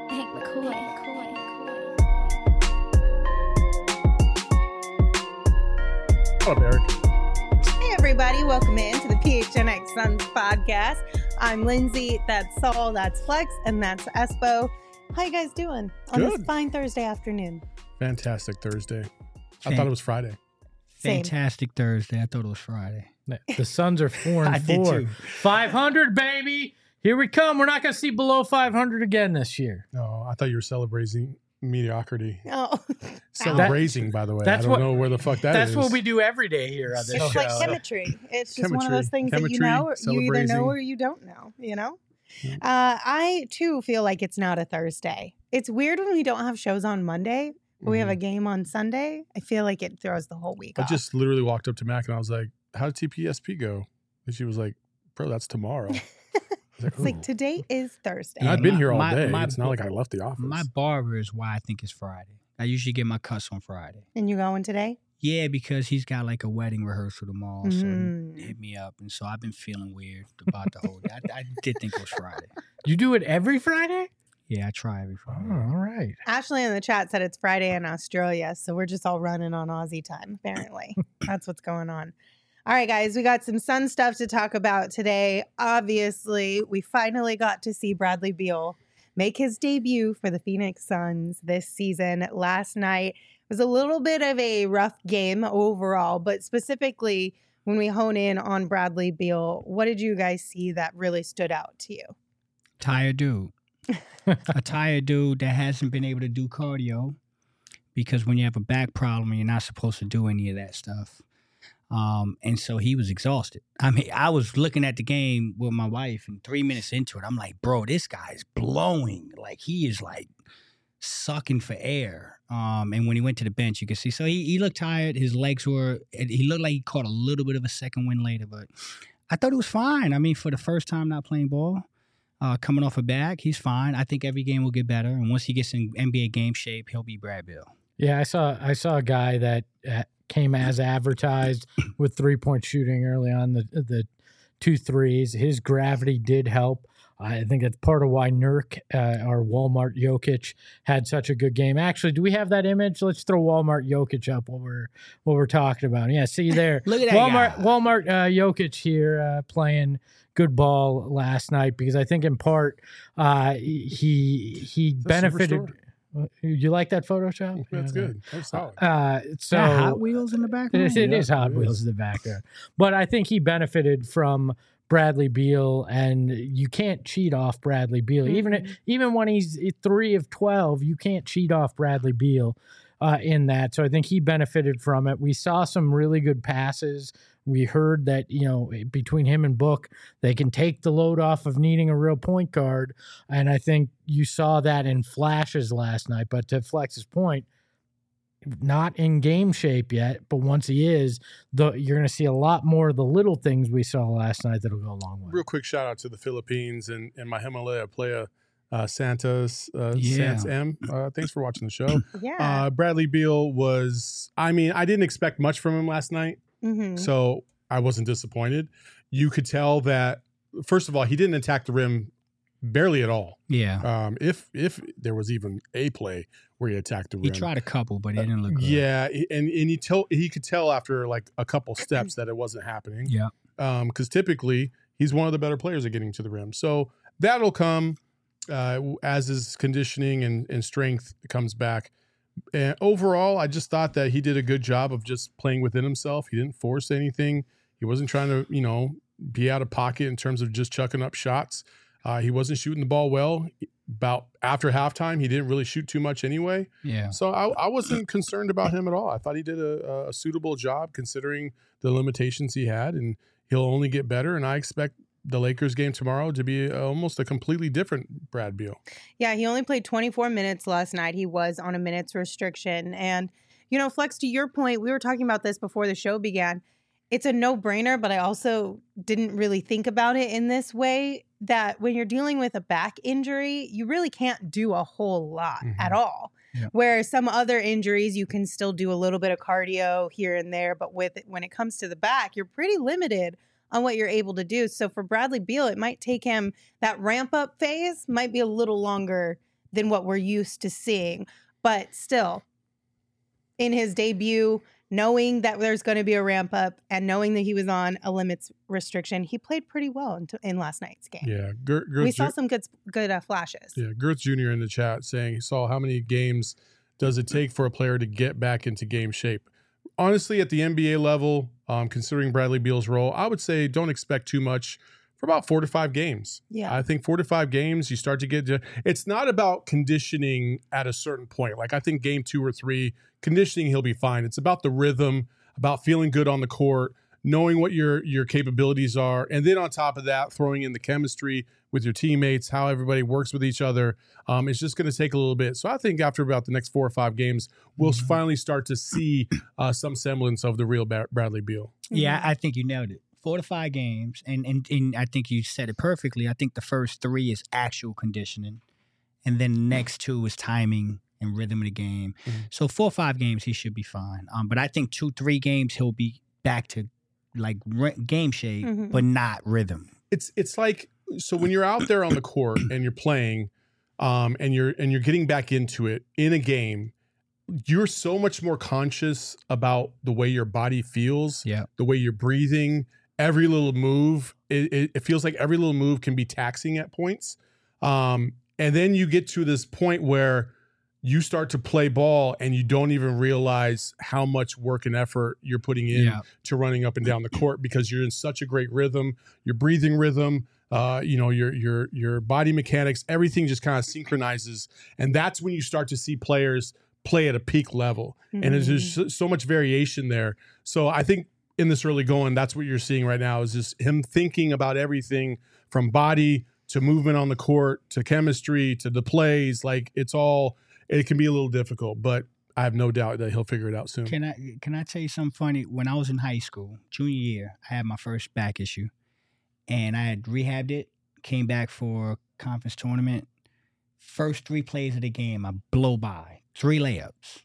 Hank McCoy. What up, Eric? Hey, everybody. Welcome in to the PHNX Suns podcast. I'm Lindsay. That's Saul. That's Flex. And that's Espo. How you guys doing on this fine Thursday afternoon? Fantastic Thursday. I thought it was Friday. Same. Fantastic Thursday. I thought it was Friday. The Suns are 4-4. I did too. 500, baby. Here we come. We're not going to see below 500 again this year. No, I thought you were celebrating mediocrity. Oh, Celebrating, by the way. that's I don't what- know where the fuck that is. That's what we do every day here on this it's show. like chemistry. It's just one of Chemistry. those things that you Chemistry, know, you either know celebrating. or you don't know, you know? I, too, feel like it's not a Thursday. It's weird when we don't have shows on Monday, but we have a game on Sunday. I feel like it throws the whole week I off. just literally walked up to Mac and I was like, how did TPSP go? And she was like, bro, that's tomorrow. I was It's like "Ooh." today is Thursday. And I've been here all My- day. my- It's not like I left the office. My barber is why I think it's Friday. I usually get my cuts on Friday. And you going today? Yeah, because he's got like a wedding rehearsal tomorrow. So Mhm. he hit me up. And so I've been feeling weird about the whole day. I did think it was Friday. You do it every Friday? Yeah, I try every Oh, Friday. all right. Ashley in the chat said it's Friday in Australia, so we're just all running on Aussie time, apparently. That's what's going on. All right, guys, we got some Sun stuff to talk about today. Obviously, we finally got to see Bradley Beal make his debut for the Phoenix Suns this season. Last night was a little bit of a rough game overall, but specifically when we hone in on Bradley Beal, what did you guys see that really stood out to you? Tired dude. A tired dude that hasn't been able to do cardio because when you have a back problem, you're not supposed to do any of that stuff. And so he was exhausted. I mean, I was looking at the game with my wife, and 3 minutes into it, I'm like, bro, this guy is blowing. Like, he is like sucking for air. And when he went to the bench, you could see. So he looked tired. His legs were, he looked like he caught a little bit of a second wind later, but I thought it was fine. I mean, for the first time not playing ball, coming off a back, he's fine. I think every game will get better. And once he gets in NBA game shape, he'll be Brad Beal. Yeah, I saw a guy that came as advertised with 3-point shooting early on, the 2 threes. His gravity did help. I think that's part of why Nurk, or Walmart Jokic, had such a good game. Actually, do we have that image? Let's throw Walmart Jokic up while we're talking about it. Yeah, see there. Look at that Walmart Jokic here playing good ball last night, because I think in part he benefited. You like that Photoshop? That's good. That's solid. So Hot Wheels in the background? it is Hot it is. Wheels in the background. But I think he benefited from Bradley Beal, and you can't cheat off Bradley Beal. Even when he's 3 of 12, you can't cheat off Bradley Beal in that. So I think he benefited from it. We saw some really good passes. We heard that, between him and Book, they can take the load off of needing a real point guard. And I think you saw that in flashes last night. But to Flex's point, not in game shape yet, but once he is, you're going to see a lot more of the little things we saw last night that'll go a long way. Real quick shout out to the Philippines and my Himalaya player, Santos, Yeah. Sans M. Thanks for watching the show. Yeah. Bradley Beal I didn't expect much from him last night. Mhm. So I wasn't disappointed. You could tell that, first of all, he didn't attack the rim barely at all. Yeah. If there was even a play where he attacked the rim. He tried a couple, but it didn't look good. Yeah, and he could tell after like a couple steps that it wasn't happening. Yeah. Because typically he's one of the better players at getting to the rim. So that'll come as his conditioning and strength comes back. And overall, I just thought that he did a good job of just playing within himself. He didn't force anything. He wasn't trying to, be out of pocket in terms of just chucking up shots. He wasn't shooting the ball well. About after halftime, he didn't really shoot too much anyway. Yeah. So I wasn't concerned about him at all. I thought he did a suitable job considering the limitations he had, and he'll only get better. And I expect the Lakers game tomorrow to be almost a completely different Brad Beal. Yeah, he only played 24 minutes last night. He was on a minutes restriction. And, Flex, to your point, we were talking about this before the show began. It's a no-brainer, but I also didn't really think about it in this way, that when you're dealing with a back injury, you really can't do a whole lot at all. Yeah. Where some other injuries, you can still do a little bit of cardio here and there. But when it comes to the back, you're pretty limited on what you're able to do. So for Bradley Beal, it might take him, that ramp-up phase might be a little longer than what we're used to seeing. But still, in his debut, knowing that there's going to be a ramp up and knowing that he was on a limits restriction, he played pretty well in last night's game. Yeah, we saw some good flashes. Yeah, Girth Jr. in the chat saying he saw how many games does it take for a player to get back into game shape. Honestly, at the NBA level, considering Bradley Beal's role, I would say don't expect too much for about 4 to 5 games. Yeah. I think 4 to 5 games, you start to get to, it's not about conditioning at a certain point. Like I think game 2 or 3, conditioning, he'll be fine. It's about the rhythm, about feeling good on the court, knowing what your capabilities are. And then on top of that, throwing in the chemistry with your teammates, how everybody works with each other. It's just going to take a little bit. So I think after about the next 4 or 5 games, we'll finally start to see some semblance of the real Bradley Beal. Yeah, I think you nailed it. 4 to 5 games, and I think you said it perfectly. I think the first 3 is actual conditioning, and then the next 2 is timing and rhythm of the game. Mm-hmm. So 4 or 5 games, he should be fine. But I think 2-3 games, he'll be back to like game shape, but not rhythm. It's like, so when you're out there on the court and you're playing, and you're getting back into it in a game, you're so much more conscious about the way your body feels, the way you're breathing. Every little move, it feels like every little move can be taxing at points. And then you get to this point where you start to play ball and you don't even realize how much work and effort you're putting in to running up and down the court because you're in such a great rhythm, your breathing rhythm, your body mechanics, everything just kind of synchronizes. And that's when you start to see players play at a peak level. And there's just so much variation there. So I think in this early going, that's what you're seeing right now is just him thinking about everything from body to movement on the court to chemistry to the plays. Like it can be a little difficult, but I have no doubt that he'll figure it out soon. Can I tell you something funny? When I was in high school, junior year, I had my first back issue and I had rehabbed it, came back for a conference tournament. First 3 plays of the game, I blow by 3 layups.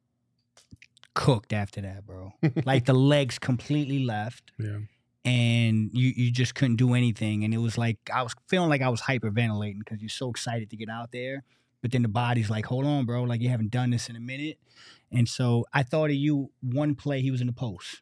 Cooked after that, bro. Like the legs completely left. Yeah. And you just couldn't do anything. And it was like I was feeling like I was hyperventilating because you're so excited to get out there. But then the body's like, hold on, bro. Like you haven't done this in a minute. And so I thought of you one play, he was in the post.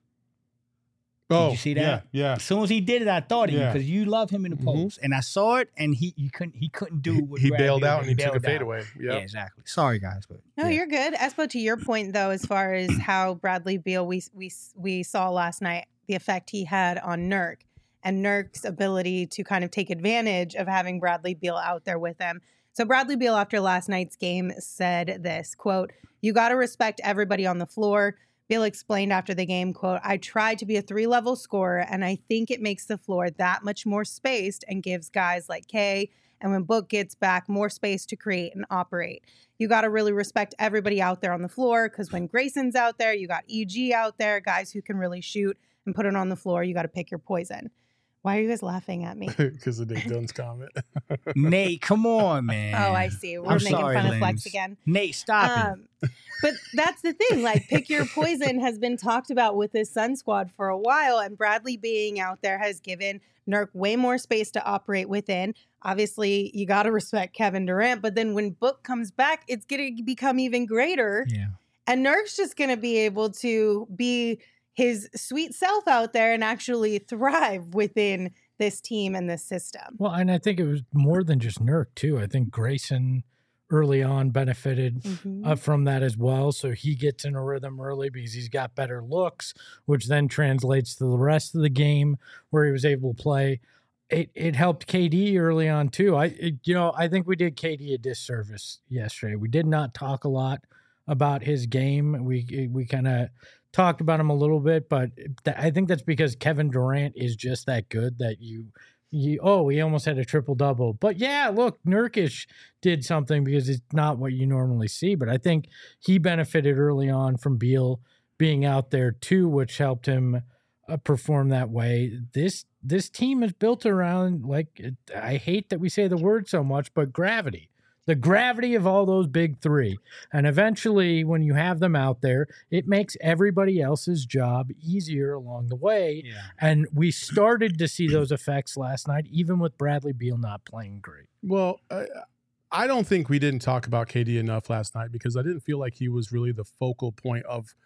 Did you see that? Yeah. As soon as he did it, I thought of you because you love him in the post. And I saw it, and he couldn't do what he bailed out and he took a fadeaway. Yeah, exactly. Sorry, guys, but no, you're good. Espo, to your point though, as far as how Bradley Beal we saw last night, the effect he had on Nurk and Nurk's ability to kind of take advantage of having Bradley Beal out there with him. So Bradley Beal after last night's game said this, quote, "You got to respect everybody on the floor." Beal explained after the game, quote, "I tried to be a 3-level scorer, and I think it makes the floor that much more spaced and gives guys like Kay and when Book gets back more space to create and operate. You got to really respect everybody out there on the floor because when Grayson's out there, you got EG out there, guys who can really shoot and put it on the floor. You got to pick your poison." Why are you guys laughing at me? Because of Nate Dunn's comment. Nate, come on, man. Oh, I see. We're making fun of Flex again. Nate, stop it. But that's the thing. Like, pick your poison has been talked about with this Sun squad for a while, and Bradley being out there has given Nurk way more space to operate within. Obviously, you got to respect Kevin Durant, but then when Book comes back, it's going to become even greater. Yeah. And Nurk's just going to be able to be his sweet self out there and actually thrive within this team and this system. Well, and I think it was more than just Nurk, too. I think Grayson early on benefited from that as well. So he gets in a rhythm early because he's got better looks, which then translates to the rest of the game where he was able to play. It helped KD early on, too. I think we did KD a disservice yesterday. We did not talk a lot about his game. We kind of talked about him a little bit, but I think that's because Kevin Durant is just that good that he almost had a triple-double. But yeah, look, Nurkic did something because it's not what you normally see, but I think he benefited early on from Beal being out there too, which helped him perform that way. This team is built around, I hate that we say the word so much, but gravity. The gravity of all those big 3. And eventually, when you have them out there, it makes everybody else's job easier along the way. Yeah. And we started to see those effects last night, even with Bradley Beal not playing great. Well, I don't think we didn't talk about KD enough last night because I didn't feel like he was really the focal point of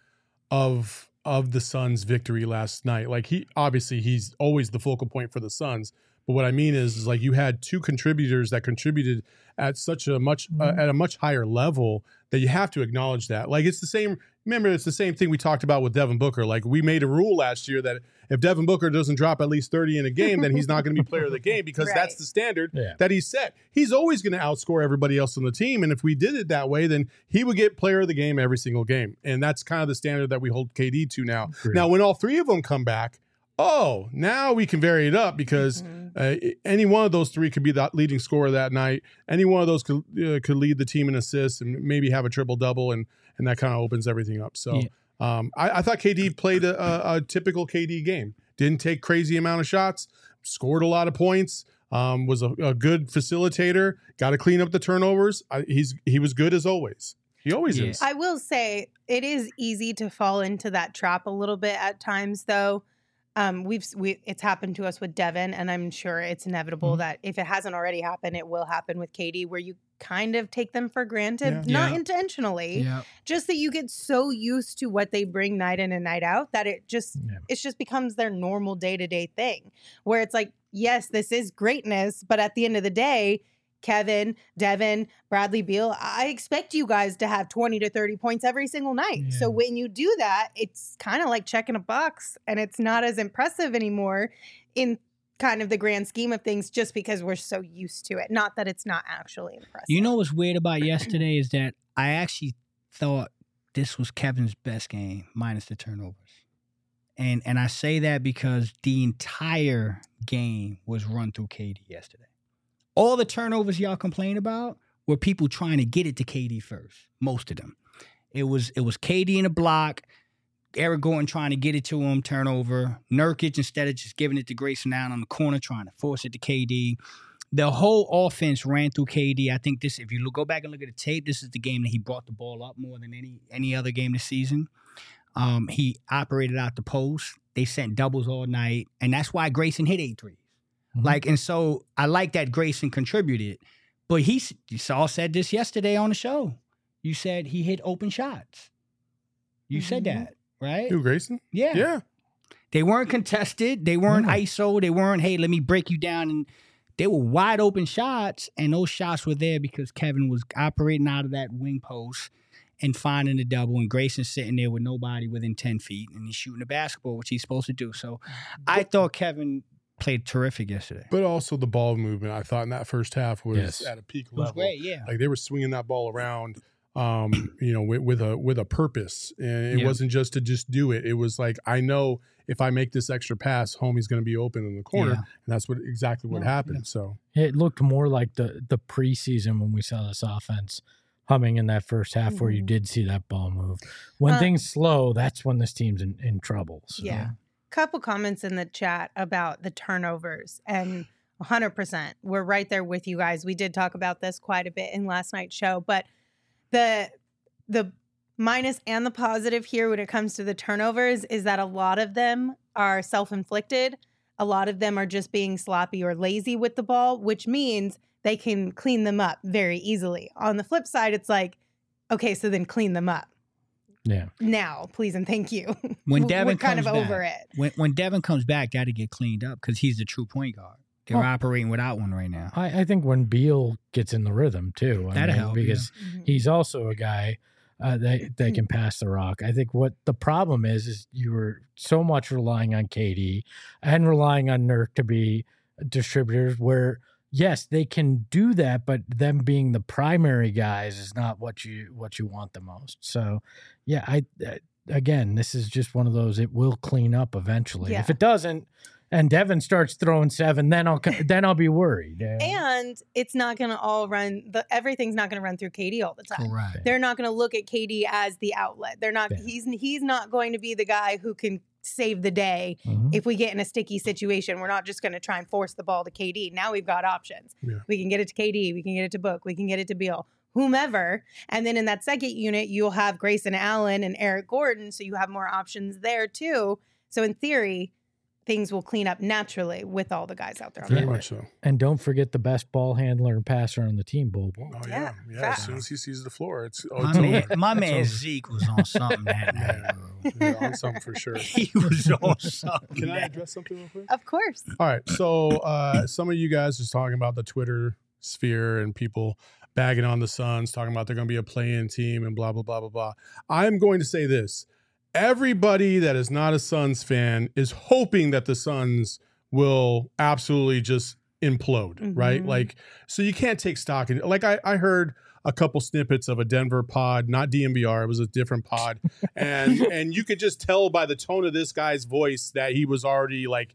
the Suns' victory last night. Like he's always the focal point for the Suns. But what I mean is like you had two contributors that contributed at such a much at a much higher level that you have to acknowledge that. Like it's the same. Remember, it's the same thing we talked about with Devin Booker. Like we made a rule last year that if Devin Booker doesn't drop at least 30 in a game, then he's not going to be player of the game because Right. that's the standard that he set. He's always going to outscore everybody else on the team. And if we did it that way, then he would get player of the game every single game. And that's kind of the standard that we hold KD to now. Agreed. Now, when all three of them come back, now we can vary it up because any one of those three could be the leading scorer that night. Any one of those could lead the team in assists and maybe have a triple-double, and that kind of opens everything up. So I thought KD played a typical KD game. Didn't take crazy amount of shots, scored a lot of points, was a good facilitator, got to clean up the turnovers. He was good as always. He always is. I will say it is easy to fall into that trap a little bit at times, though. It's happened to us with Devin, and I'm sure it's inevitable that if it hasn't already happened, it will happen with KD, where you kind of take them for granted, not intentionally, just that you get so used to what they bring night in and night out that it just becomes their normal day-to-day thing, where it's like, yes, this is greatness, but at the end of the day, Kevin, Devin, Bradley Beal, I expect you guys to have 20 to 30 points every single night. Yeah. So when you do that, it's kind of like checking a box, and it's not as impressive anymore in kind of the grand scheme of things just because we're so used to it. Not that it's not actually impressive. You know what's weird about yesterday is that I actually thought this was Kevin's best game, minus the turnovers. And I say that because the entire game was run through KD yesterday. All the turnovers y'all complain about were people trying to get it to KD first. Most of them. It was KD in a block, Eric Gordon trying to get it to him, turnover. Nurkic, instead of just giving it to Grayson Allen on the corner, trying to force it to KD. The whole offense ran through KD. I think this, if you go back and look at the tape, this is the game that he brought the ball up more than any other game this season. He operated out the post. They sent doubles all night, and that's why Grayson hit 8 threes. And so I like that Grayson contributed. But you all said this yesterday on the show. You said he hit open shots. You said that, right? Who, Grayson? Yeah. They weren't contested. They weren't ISO. They weren't, hey, let me break you down. And they were wide open shots, and those shots were there because Kevin was operating out of that wing post and finding the double, and Grayson's sitting there with nobody within 10 feet, and he's shooting the basketball, which he's supposed to do. So I thought Kevin played terrific yesterday. But also the ball movement, I thought in that first half was at a peak level. It was great, yeah. Like they were swinging that ball around, with a purpose, and it wasn't just to just do it. It was like, I know if I make this extra pass, homie's going to be open in the corner, and that's exactly what happened. Yeah. So it looked more like the preseason when we saw this offense humming in that first half, where you did see that ball move. When things slow, that's when this team's in trouble. So. Yeah. Couple comments in the chat about the turnovers, and 100%. We're right there with you guys. We did talk about this quite a bit in last night's show, but the minus and the positive here when it comes to the turnovers is that a lot of them are self-inflicted. A lot of them are just being sloppy or lazy with the ball, which means they can clean them up very easily. On the flip side, it's like, okay, so then clean them up. Yeah. Now, please and thank you. When Devin We're kind of comes over back, it. When Devin comes back, got to get cleaned up because he's the true point guard. They're operating without one right now. I think when Beal gets in the rhythm too, That'll help, because he's also a guy that can pass the rock. I think what the problem is you were so much relying on KD and relying on Nurk to be distributors where, yes, they can do that, but them being the primary guys is not what you want the most. So, yeah, again, this is just one of those, it will clean up eventually. Yeah. If it doesn't, and Devin starts throwing 7, then I'll be worried. And it's not going to all run. Everything's not going to run through KD all the time. Correct. They're not going to look at KD as the outlet. They're not. Yeah. He's not going to be the guy who can save the day if we get in a sticky situation. We're not just going to try and force the ball to KD. Now we've got options. Yeah. We can get it to KD. We can get it to Book. We can get it to Beal. Whomever. And then in that second unit, you'll have Grayson Allen and Eric Gordon. So you have more options there too. So in theory, things will clean up naturally with all the guys out there. On Very the court. much so. And don't forget the best ball handler and passer on the team, Bobo. Oh Yeah, yeah. As facts. soon as he sees the floor, it's My over. man, my It's man over. Zeke was on something that night. Yeah, bro. you're on something for sure. He was on something. Can I that- address something real quick? Of course. All right. So some of you guys just talking about the Twitter sphere and people bagging on the Suns, talking about they're going to be a play-in team and blah, blah, blah, blah, blah. I'm going to say this. Everybody that is not a Suns fan is hoping that the Suns will absolutely just implode, right? Mhm. Like, so you can't take stock in it. Like I heard a couple snippets of a Denver pod, not DNVR, it was a different pod. And you could just tell by the tone of this guy's voice that he was already like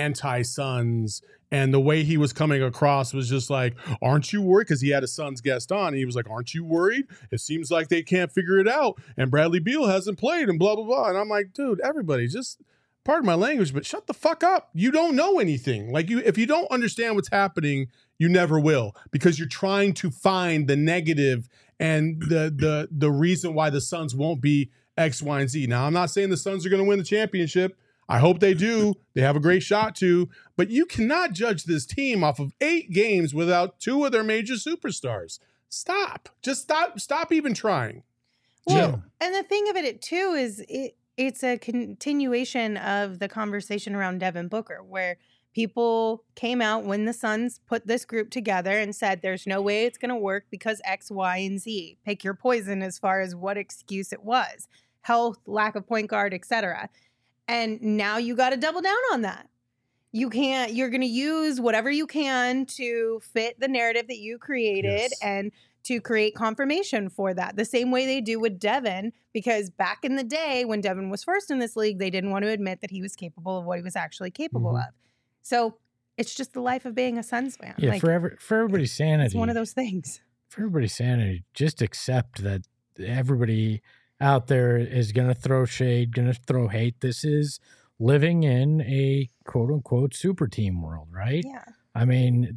anti-Suns. And the way he was coming across was just like, aren't you worried? Because he had a Suns guest on. And he was like, aren't you worried? It seems like they can't figure it out. And Bradley Beal hasn't played and blah, blah, blah. And I'm like, dude, everybody just, pardon my language, but shut the fuck up. You don't know anything. Like if you don't understand what's happening, you never will, because you're trying to find the negative and the reason why the Suns won't be X, Y, and Z. Now, I'm not saying the Suns are going to win the championship. I hope they do. They have a great shot to, but you cannot judge this team off of 8 games without 2 of their major superstars. Stop. Just stop even trying. Well, and the thing of it too is it's a continuation of the conversation around Devin Booker, where people came out when the Suns put this group together and said there's no way it's going to work because X, Y, and Z. Pick your poison as far as what excuse it was. Health, lack of point guard, etc. And now you got to double down on that. You're going to use whatever you can to fit the narrative that you created Yes. and to create confirmation for that. The same way they do with Devin, because back in the day when Devin was first in this league, they didn't want to admit that he was capable of what he was actually capable of. So it's just the life of being a Suns fan. Yeah, Like, for everybody's sanity. it's one of those things. For everybody's sanity, just accept that everybody out there is going to throw shade, going to throw hate. This is living in a quote unquote super team world, right? Yeah. I mean,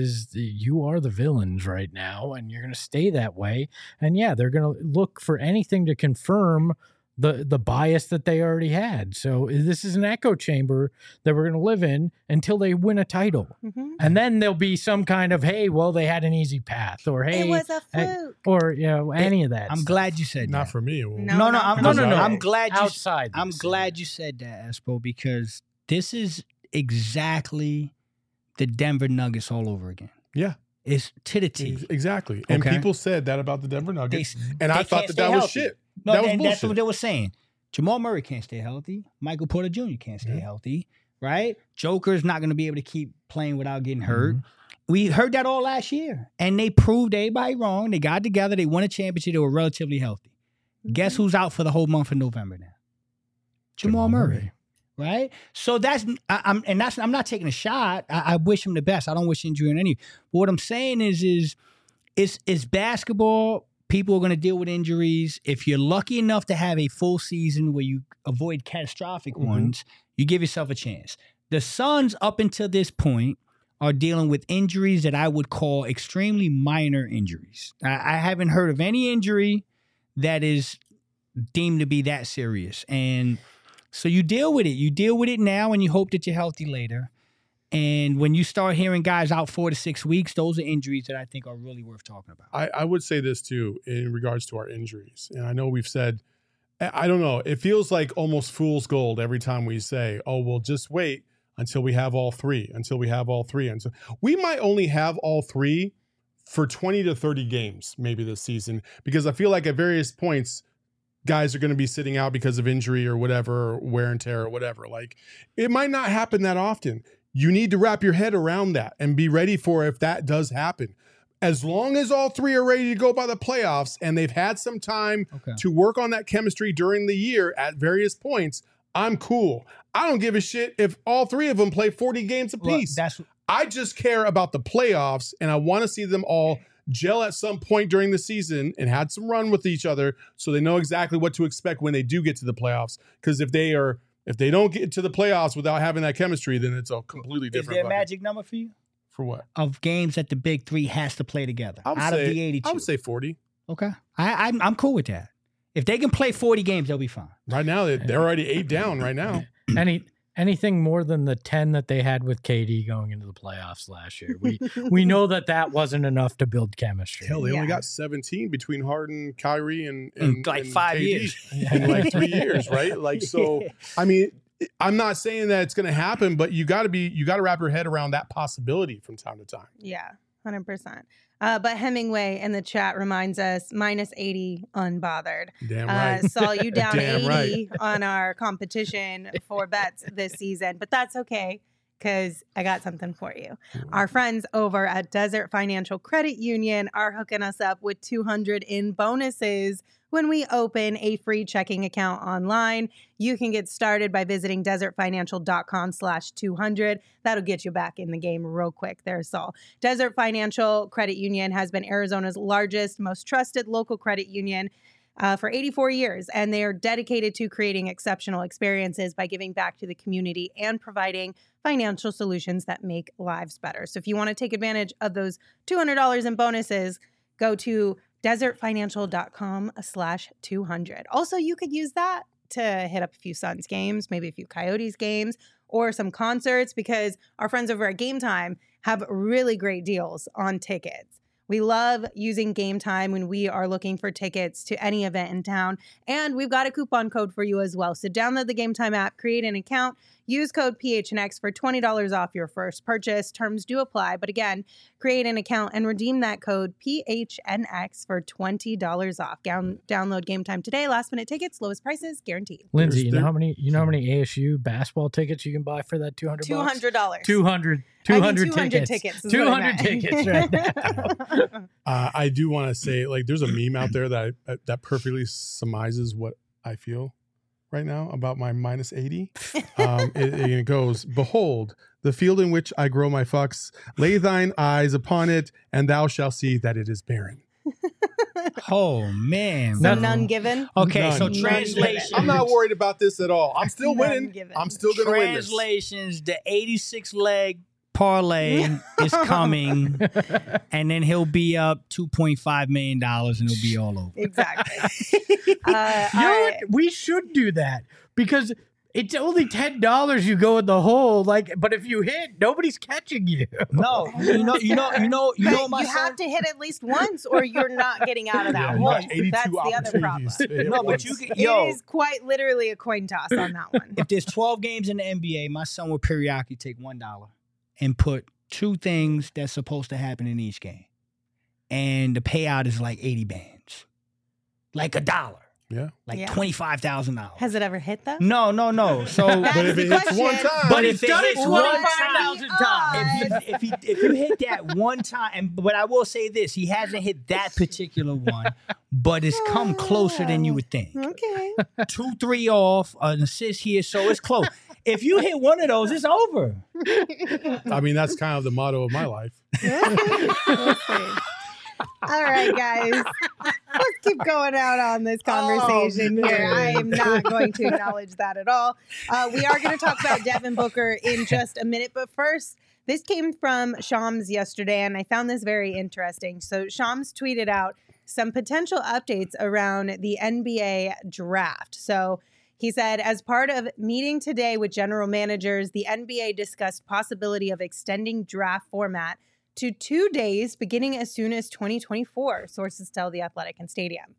you are the villains right now, and you're going to stay that way. And yeah, they're going to look for anything to confirm the bias that they already had. So this is an echo chamber that we're going to live in until they win a title. Mm-hmm. And then there'll be some kind of, hey, well, they had an easy path, or hey, It was a hey, fluke. or any of that. I'm stuff. glad you said Not that. for me. It won't. No, No, I'm glad you outside. I'm this. glad you said that, Espo, because this is exactly the Denver Nuggets all over again. Yeah. It's to the T. Exactly. And Okay. people said that about the Denver Nuggets. And they I thought can't that stay was healthy. shit. No, that was that's bullshit. what they were saying. Jamal Murray can't stay healthy. Michael Porter Jr. can't stay Yeah. healthy, right? Joker's not going to be able to keep playing without getting hurt. Mm-hmm. We heard that all last year, and they proved everybody wrong. They got together. They won a championship. They were relatively healthy. Guess who's out for the whole month of November now? Jamal Murray. Right, so I'm not taking a shot. I wish him the best. I don't wish injury on any. But what I'm saying is it's basketball. People are going to deal with injuries. If you're lucky enough to have a full season where you avoid catastrophic ones, you give yourself a chance. The Suns, up until this point, are dealing with injuries that I would call extremely minor injuries. I haven't heard of any injury that is deemed to be that serious, and so you deal with it. You deal with it now, and you hope that you're healthy later. And when you start hearing guys out 4 to 6 weeks, those are injuries that I think are really worth talking about. I would say this too in regards to our injuries. And I know we've said, I don't know, it feels like almost fool's gold every time we say, oh, well, just wait until we have all 3, until we have all 3. And so we might only have all 3 for 20 to 30 games maybe this season, because I feel like at various points, guys are going to be sitting out because of injury or whatever, or wear and tear or whatever. Like, it might not happen that often. You need to wrap your head around that and be ready for if that does happen. As long as all 3 are ready to go by the playoffs and they've had some time to work on that chemistry during the year at various points, I'm cool. I don't give a shit if all 3 of them play 40 games apiece. I just care about the playoffs, and I want to see them all gel at some point during the season and had some run with each other so they know exactly what to expect when they do get to the playoffs. Because if they don't get to the playoffs without having that chemistry, then it's a completely different. Is there a bucket. magic number for you? For what? Of games that the big 3 has to play together out of the 82. I would say 40. Okay. I'm cool with that. If they can play 40 games, they'll be fine. Right now, they're already 8 down right now. anything more than the 10 that they had with KD going into the playoffs last year. We know that wasn't enough to build chemistry. Hell, they Yeah. only got 17 between Harden, Kyrie, and like and 5 KD years. in like 3 years, right? Like, so I mean, I'm not saying that it's going to happen, but you got to wrap your head around that possibility from time to time. Yeah, 100%. But Hemingway in the chat reminds us minus 80 unbothered. Damn right. Saw you down Damn 80 on our competition for bets this season, but that's okay because I got something for you. Our friends over at Desert Financial Credit Union are hooking us up with $200 in bonuses when we open a free checking account online. You can get started by visiting desertfinancial.com/200. That'll get you back in the game real quick there, Saul. Desert Financial Credit Union has been Arizona's largest, most trusted local credit union for 84 years, and they are dedicated to creating exceptional experiences by giving back to the community and providing financial solutions that make lives better. So if you want to take advantage of those $200 in bonuses, go to desertfinancial.com/200. Also, you could use that to hit up a few Suns games, maybe a few Coyotes games, or some concerts, because our friends over at Game Time have really great deals on tickets. We love using Game Time when we are looking for tickets to any event in town. And we've got a coupon code for you as well. So download the Game Time app, create an account, use code PHNX for $20 off your first purchase. Terms do apply. But again, create an account and redeem that code PHNX for $20 off. Download Game Time today. Last minute tickets, lowest prices guaranteed. Lindsay, you know how many ASU basketball tickets you can buy for that $200? $200. 200 tickets. 200 tickets right now. I do want to say, like, there's a meme out there that perfectly surmises what I feel right now about my minus 80. It goes, "Behold, the field in which I grow my fucks. Lay thine eyes upon it, and thou shalt see that it is barren." Oh man. So none given. Okay, None. so None translation. I'm not worried about this at all. I'm still None winning. given. I'm still going to win this. Translations, the 86 leg parlay is coming, and then he'll be up $2.5 million and it'll be all over. Exactly. You know all what? We should do that because it's only $10 you go in the hole. Like, but if you hit, nobody's catching you. No, you know, But my you son. have to hit at least once, or you're not getting out of that Yeah, hole. like 82 That's the other problem. opportunities. to hit No, but once. you can, It is quite literally a coin toss on that one. if there's 12 games in the NBA, my son will periodically take $1 and put two things that's supposed to happen in each game. And the payout is like 80 bands. Like $1. Yeah. Like Yeah. $25,000. Has it ever hit though? No. So That's But if the it hits question. one time, But if He's done it it hits one 25,000 times. if you hit that one time, but I will say this, he hasn't hit that particular one, but it's come closer than you would think. Okay. 2-3 off, an assist here, so it's close. If you hit one of those, it's over. I mean, that's kind of the motto of my life. We'll see. All right, guys. Let's keep going out on this conversation here. man. I am not going to acknowledge that at all. We are going to talk about Devin Booker in just a minute. But first, this came from Shams yesterday, and I found this very interesting. So Shams tweeted out some potential updates around the NBA draft. So he said, as part of meeting today with general managers, the NBA discussed possibility of extending draft format to 2 days beginning as soon as 2024, sources tell The Athletic and Stadium.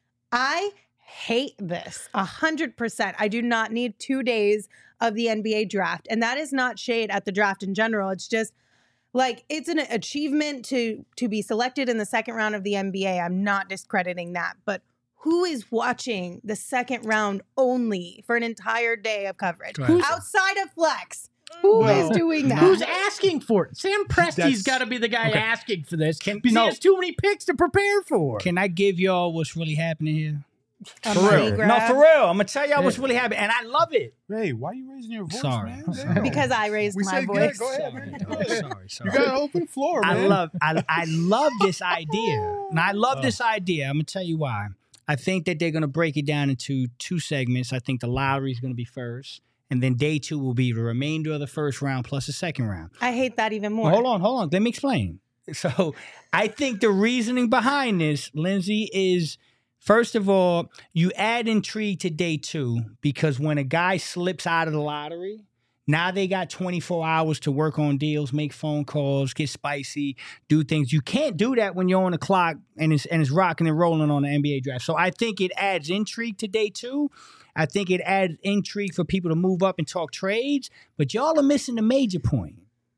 I hate this 100%. I do not need 2 days of the NBA draft. And that is not shade at the draft in general. It's just like, it's an achievement to be selected in the second round of the NBA. I'm not discrediting that. But who is watching the second round only for an entire day of coverage? Right. Outside of Flex. Who is doing that? Who's asking for it? Sam Presti's That's- got to be the guy Okay. asking for this because no. he has too many picks to prepare for. Can I give y'all what's really happening here? A For money real. grab? No, for real. I'm going to tell y'all what's really happening, and I love it. Hey, why are you raising your voice, Sorry. man? I'm Damn. sorry. Because I raised We my said voice. good. Go ahead, man. Go ahead. Sorry. You got an open floor, man. I love this idea. And I love this idea. I'm going to tell you why. I think that they're going to break it down into two segments. I think the lottery is going to be first, and then day 2 will be the remainder of the first round plus the second round. I hate that even more. Hold on. Let me explain. So I think the reasoning behind this, Lindsay, is first of all, you add intrigue to day 2 because when a guy slips out of the lottery, Now they got 24 hours to work on deals, make phone calls, get spicy, do things. You can't do that when you're on the clock and it's rocking and rolling on the NBA draft. So I think it adds intrigue to day 2. I think it adds intrigue for people to move up and talk trades. But y'all are missing the major point.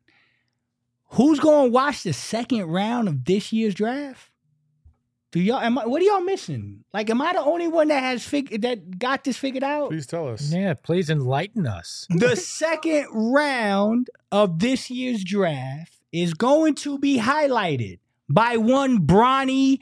Who's going to watch the second round of this year's draft? What are y'all missing? Like, am I the only one that got this figured out? Please tell us. Yeah, please enlighten us. The second round of this year's draft is going to be highlighted by one Bronny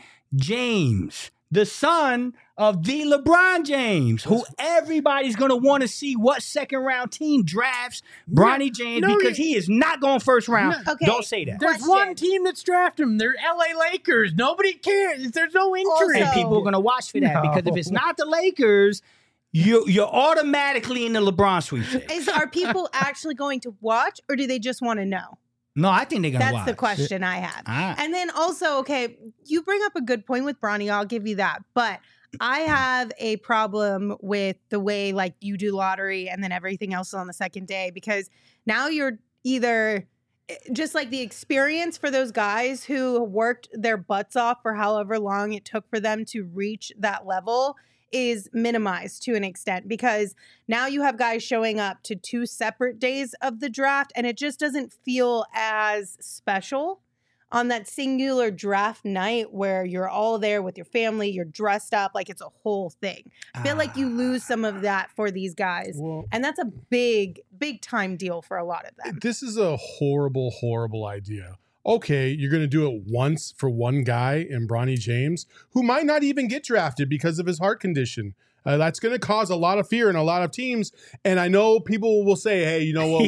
James, the son of the LeBron James, who everybody's going to want to see what second round team drafts Bronny James because he is not going first round. Okay. Don't say that. There's one team that's drafted him. They're LA Lakers. Nobody cares. There's no interest. And people are going to watch for that because if it's not the Lakers, you're automatically in the LeBron sweepstakes. Are people actually going to watch, or do they just want to know? No, I think they're going to watch. That's the question I have. Ah. And then also, okay, you bring up a good point with Bronny. I'll give you that. But I have a problem with the way like you do lottery and then everything else on the second day, because now you're either just like the experience for those guys who worked their butts off for however long it took for them to reach that level is minimized to an extent, because now you have guys showing up to 2 separate days of the draft and it just doesn't feel as special on that singular draft night where you're all there with your family, you're dressed up like it's a whole thing. I feel like you lose some of that for these guys. Well, And that's a big, big time deal for a lot of them. this is a horrible, horrible idea. Okay, you're going to do it once for one guy in Bronny James, who might not even get drafted because of his heart condition. That's going to cause a lot of fear in a lot of teams. And I know people will say, hey, you know what,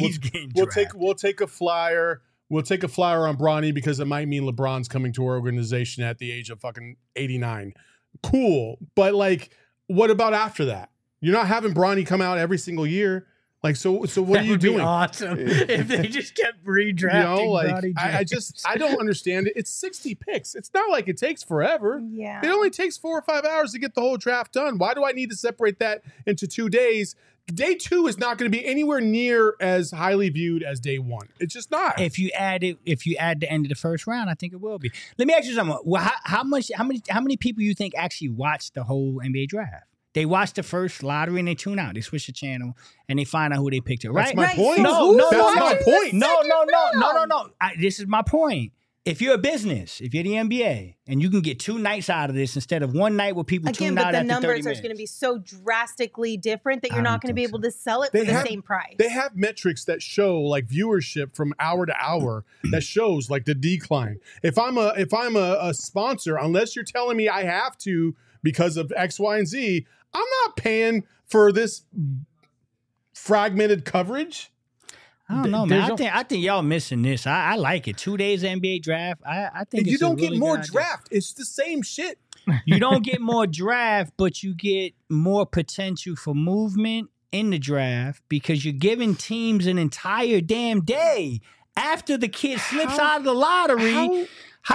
we'll take a flyer. We'll take a flyer on Bronny because it might mean LeBron's coming to our organization at the age of fucking 89. Cool. But like, what about after that? You're not having Bronny come out every single year. Like, so what are you doing? Awesome if they just kept redrafting. Bronny James. I don't understand it. It's 60 picks. It's not like it takes forever. Yeah. It only takes 4 or 5 hours to get the whole draft done. Why do I need to separate that into 2 days? Day 2 is not going to be anywhere near as highly viewed as day 1. It's just not. If you add the end of the first round, I think it will be. Let me ask you something. Well, how many people you think actually watch the whole NBA draft? They watch the first lottery and they tune out. They switch the channel and they find out who they picked. Right? That's my Right. point. So That's my point. No. This is my point. If you're a business, if you're the NBA, and you can get 2 nights out of this instead of one night where people Again, tune but out the after 30 numbers minutes. are going to be so drastically different that I you're don't not going to be think able so. to sell it They for the have- same price. They have metrics that show like viewership from hour to hour that shows like the decline. If I'm a sponsor, unless you're telling me I have to because of X, Y, and Z, I'm not paying for this fragmented coverage. I don't know, man. I think y'all missing this. I like it. 2 days NBA draft. I think And you it's a don't get really more good idea. draft. It's the same shit. You don't get more draft, but you get more potential for movement in the draft because you're giving teams an entire damn day after the kid slips out of the lottery.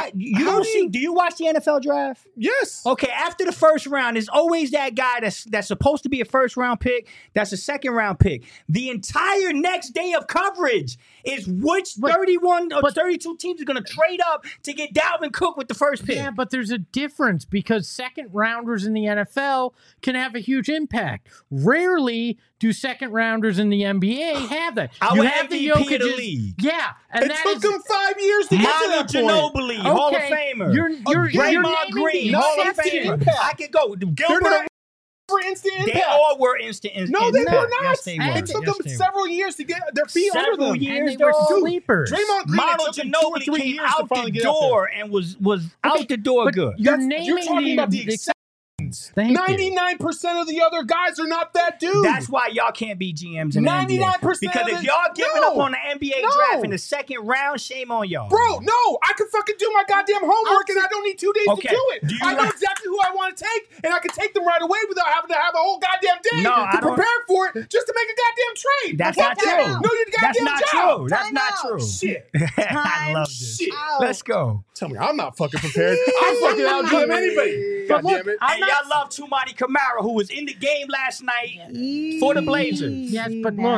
Do you watch the NFL draft? Yes. Okay, after the first round, there's always that guy that's supposed to be a first round pick, that's a second round pick. The entire next day of coverage is which 31 or 32 teams are going to trade up to get Dalvin Cook with the first pick. Yeah, but there's a difference because second rounders in the NFL can have a huge impact. Rarely do second rounders in the NBA have that. Our MVP of the league. Yeah, and It that took is them 5 years to get to Manu that point. Ginobili, Hall of Famer. You're Draymond naming Green, the Hall of exceptions. Famer. I could go. They're Gilbert, not for instant they impact. all were instant. No, they were not. Yes, they were. It took Yes, them they were. several years to get their feet under Several them. years. And they were dog. sleepers. Draymond Green, Manu it took them 2 or Ginobili 3 came years to out finally the get out there. door and was out the door but good. You're You're naming talking about the exceptions. Thank you. 99% of the other guys are not that dude. That's why y'all can't be GMs in the NBA. 99% Because of if it- y'all giving No. up on the NBA No. draft in the second round, shame on y'all. Bro, no, I can fucking do my goddamn homework and I don't need 2 days Okay. to do it. Do you I know want- exactly who I want to take and I can take them right away without having to have a whole goddamn day No, I to don't- prepare for it just to make a goddamn trade. That's Fuck not that. true. No, you That's goddamn not job. true. That's Time not out. true. Shit. I love this. Shit. Out. Let's go. Tell me, I'm not fucking prepared. I'm fucking out GM anybody. But God look, damn it. I'm And y'all love Tumani Kamara, who was in the game last night for the Blazers. Yes, but look,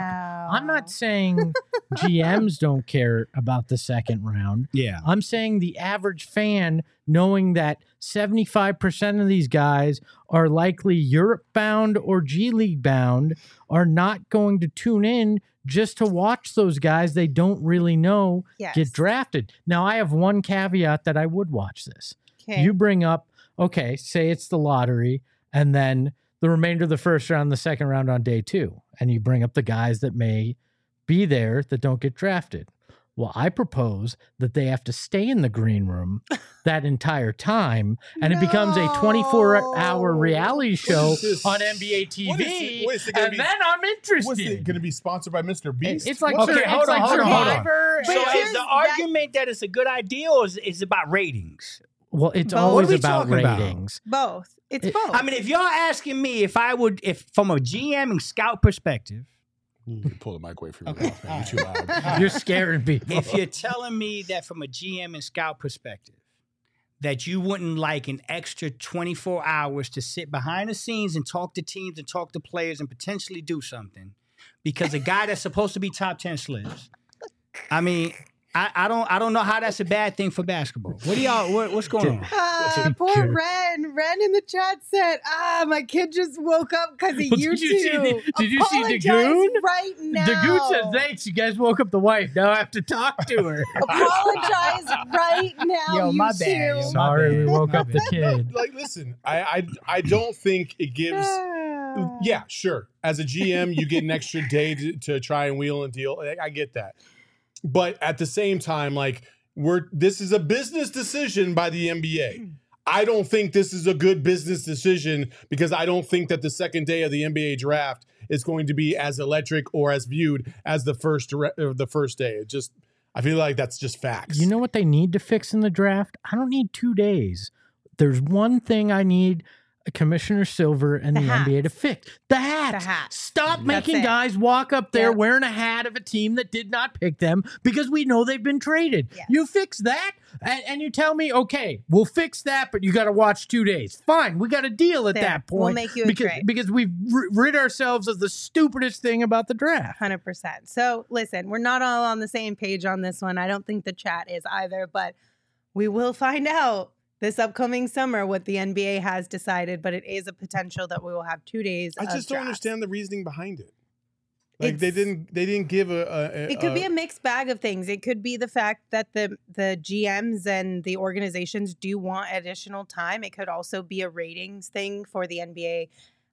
I'm not saying GMs don't care about the second round. Yeah. I'm saying the average fan, knowing that 75% of these guys are likely Europe bound or G League bound, are not going to tune in just to watch those guys they don't really know get drafted. Now, I have one caveat that I would watch this. Okay. You bring up, okay, say it's the lottery, and then the remainder of the first round, the second round on day 2, and you bring up the guys that may be there that don't get drafted. Well, I propose that they have to stay in the green room that entire time, and it becomes a 24-hour reality show on NBA TV, and then I'm interested. What's it going to be sponsored by Mr. Beast? It's like, Okay, hold on. Survivor. So is the argument that it's a good idea, or is it about ratings? Well, it's Both. always What are we about talking about? ratings. Both. It's both. I mean, if y'all asking me if from a GM and scout perspective, You can pull the mic away from your Okay. mouth, man. You're too loud. You're scaring people. if you're telling me that from a GM and scout perspective, that you wouldn't like an extra 24 hours to sit behind the scenes and talk to teams and talk to players and potentially do something because a guy that's supposed to be top 10 slips. I mean, I don't know how that's a bad thing for basketball. What do y'all? What's going on? Poor Ren. Ren in the chat said, my kid just woke up because of Well, you did you see two. did you see Apologize Dagoon? right now. Dagoon said, thanks, you guys woke up the wife. Now I have to talk to her. Apologize right now, Yo, you my two. bad, yo. Sorry, we woke My up the bad. kid. Like, listen, I don't think it gives. Yeah, sure. As a GM, you get an extra day to try and wheel and deal. I get that. But at the same time, like, this is a business decision by the NBA. I don't think this is a good business decision because I don't think that the second day of the NBA draft is going to be as electric or as viewed as the first day. I feel like that's just facts. You know what they need to fix in the draft? I don't need 2 days. There's one thing I need Commissioner Silver and the NBA to fix. The hats. Stop making it. guys walk up there Yep. wearing a hat of a team that did not pick them because we know they've been traded. Yes. You fix that and you tell me, okay, we'll fix that, but you got to watch 2 days. Fine, we got a deal at There. that point. We'll make you a trade. Because we've rid ourselves of the stupidest thing about the draft. 100%. So listen, we're not all on the same page on this one. I don't think the chat is either, but we will find out this upcoming summer what the NBA has decided, but it is a potential that we will have 2 days. I just of don't drafts. understand the reasoning behind it. Like It's- they didn't give a It could be a mixed bag of things. It could be the fact that the GMs and the organizations do want additional time. It could also be a ratings thing for the NBA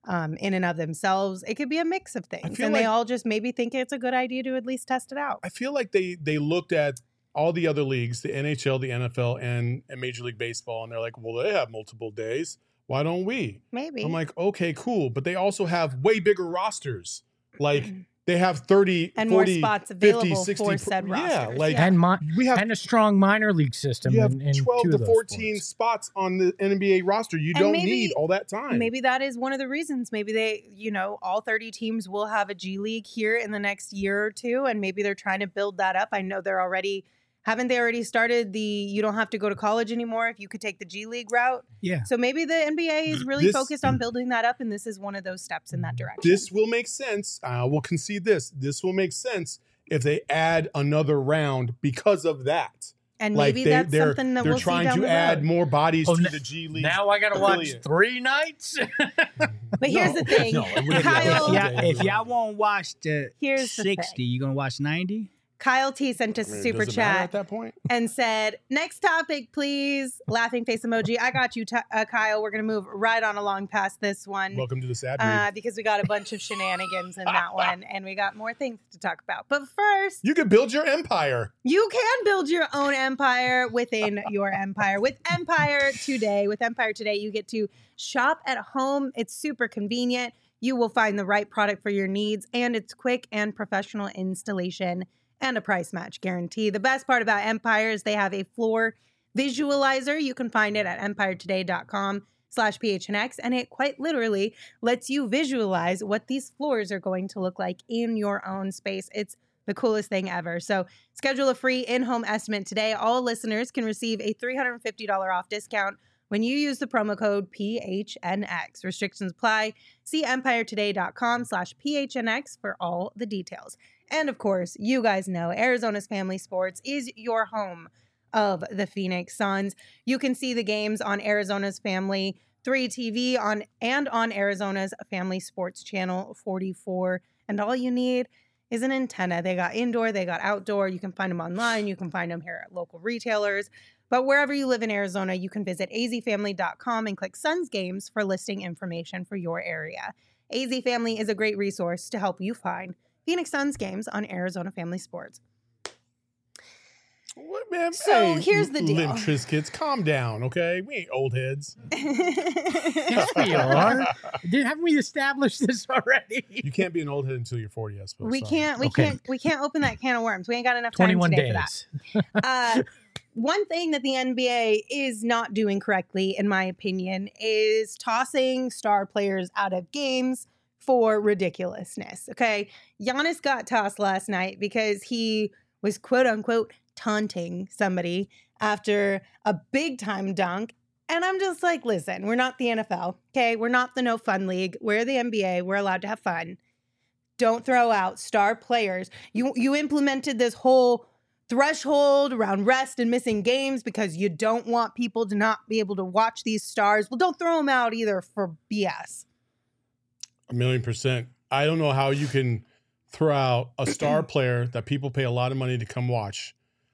in and of themselves. It could be a mix of things, feel and they like- all just maybe think it's a good idea to at least test it out. I feel like they looked at all the other leagues, the NHL, the NFL, and Major League Baseball, and they're like, well, they have multiple days. Why don't we? Maybe. I'm like, okay, cool. But they also have way bigger rosters. Like, they have 30, and 40, more spots 50, available 60. for said Yeah, rosters. like, we have And a strong minor league system. you have in 12 two to of those 14 sports. spots on the NBA roster. You And don't maybe- need all that time. Maybe that is one of the reasons. Maybe they, all 30 teams will have a G League here in the next year or two, and maybe they're trying to build that up. I know they're already, haven't they already started you don't have to go to college anymore if you could take the G League route? Yeah. So maybe the NBA is really This- focused on building that up, and this is one of those steps in that direction. This will make sense. I will concede this. This will make sense if they add another round because of that. and Like maybe that's something that they're we'll see trying down to the add road. more bodies Oh, to n- the G League. Now I got to watch affiliate. 3 nights? But here's No. the thing, No, it wouldn't be Kyle. that. If y'all won't watch the Here's the 60, thing. you gonna watch 90? Kyle T sent us I a mean, super does it matter chat at that point. and said, "Next topic, please." Laughing face emoji. I got you, Kyle. We're gonna move right on along past this one. Welcome to the sad read. Because we got a bunch of shenanigans in that one, and we got more things to talk about. But first, You can build your empire. you can build your own empire within your empire. With Empire Today, you get to shop at home. It's super convenient. You will find the right product for your needs, and it's quick and professional installation and a price match guarantee. The best part about Empire is they have a floor visualizer. You can find it at empiretoday.com/PHNX, and it quite literally lets you visualize what these floors are going to look like in your own space. It's the coolest thing ever. So schedule a free in-home estimate today. All listeners can receive a $350 off discount when you use the promo code PHNX. Restrictions apply. See empiretoday.com/PHNX for all the details. And of course, you guys know Arizona's Family Sports is your home of the Phoenix Suns. You can see the games on Arizona's Family 3 TV on Arizona's Family Sports Channel 44. And all you need is an antenna. They got indoor, they got outdoor. You can find them online. You can find them here at local retailers. But wherever you live in Arizona, you can visit azfamily.com and click Suns Games for listing information for your area. AZ Family is a great resource to help you find Phoenix Suns games on Arizona Family Sports. What, man? So here's the deal. Limp Trizkits, calm down, okay? We ain't old heads. Yes, we are. Haven't we established this already? You can't be an old head until you're 40, I suppose. We can't open that can of worms. We ain't got enough time 21 today days. for that. One thing that the NBA is not doing correctly, in my opinion, is tossing star players out of games for ridiculousness. Okay. Giannis got tossed last night because he was quote unquote taunting somebody after a big time dunk. And I'm just like, listen, we're not the NFL. Okay. We're not the no fun league. We're the NBA. We're allowed to have fun. Don't throw out star players. You implemented this whole threshold around rest and missing games because you don't want people to not be able to watch these stars. Well, don't throw them out either for BS. 1,000,000%. I don't know how you can throw out a star player that people pay a lot of money to come watch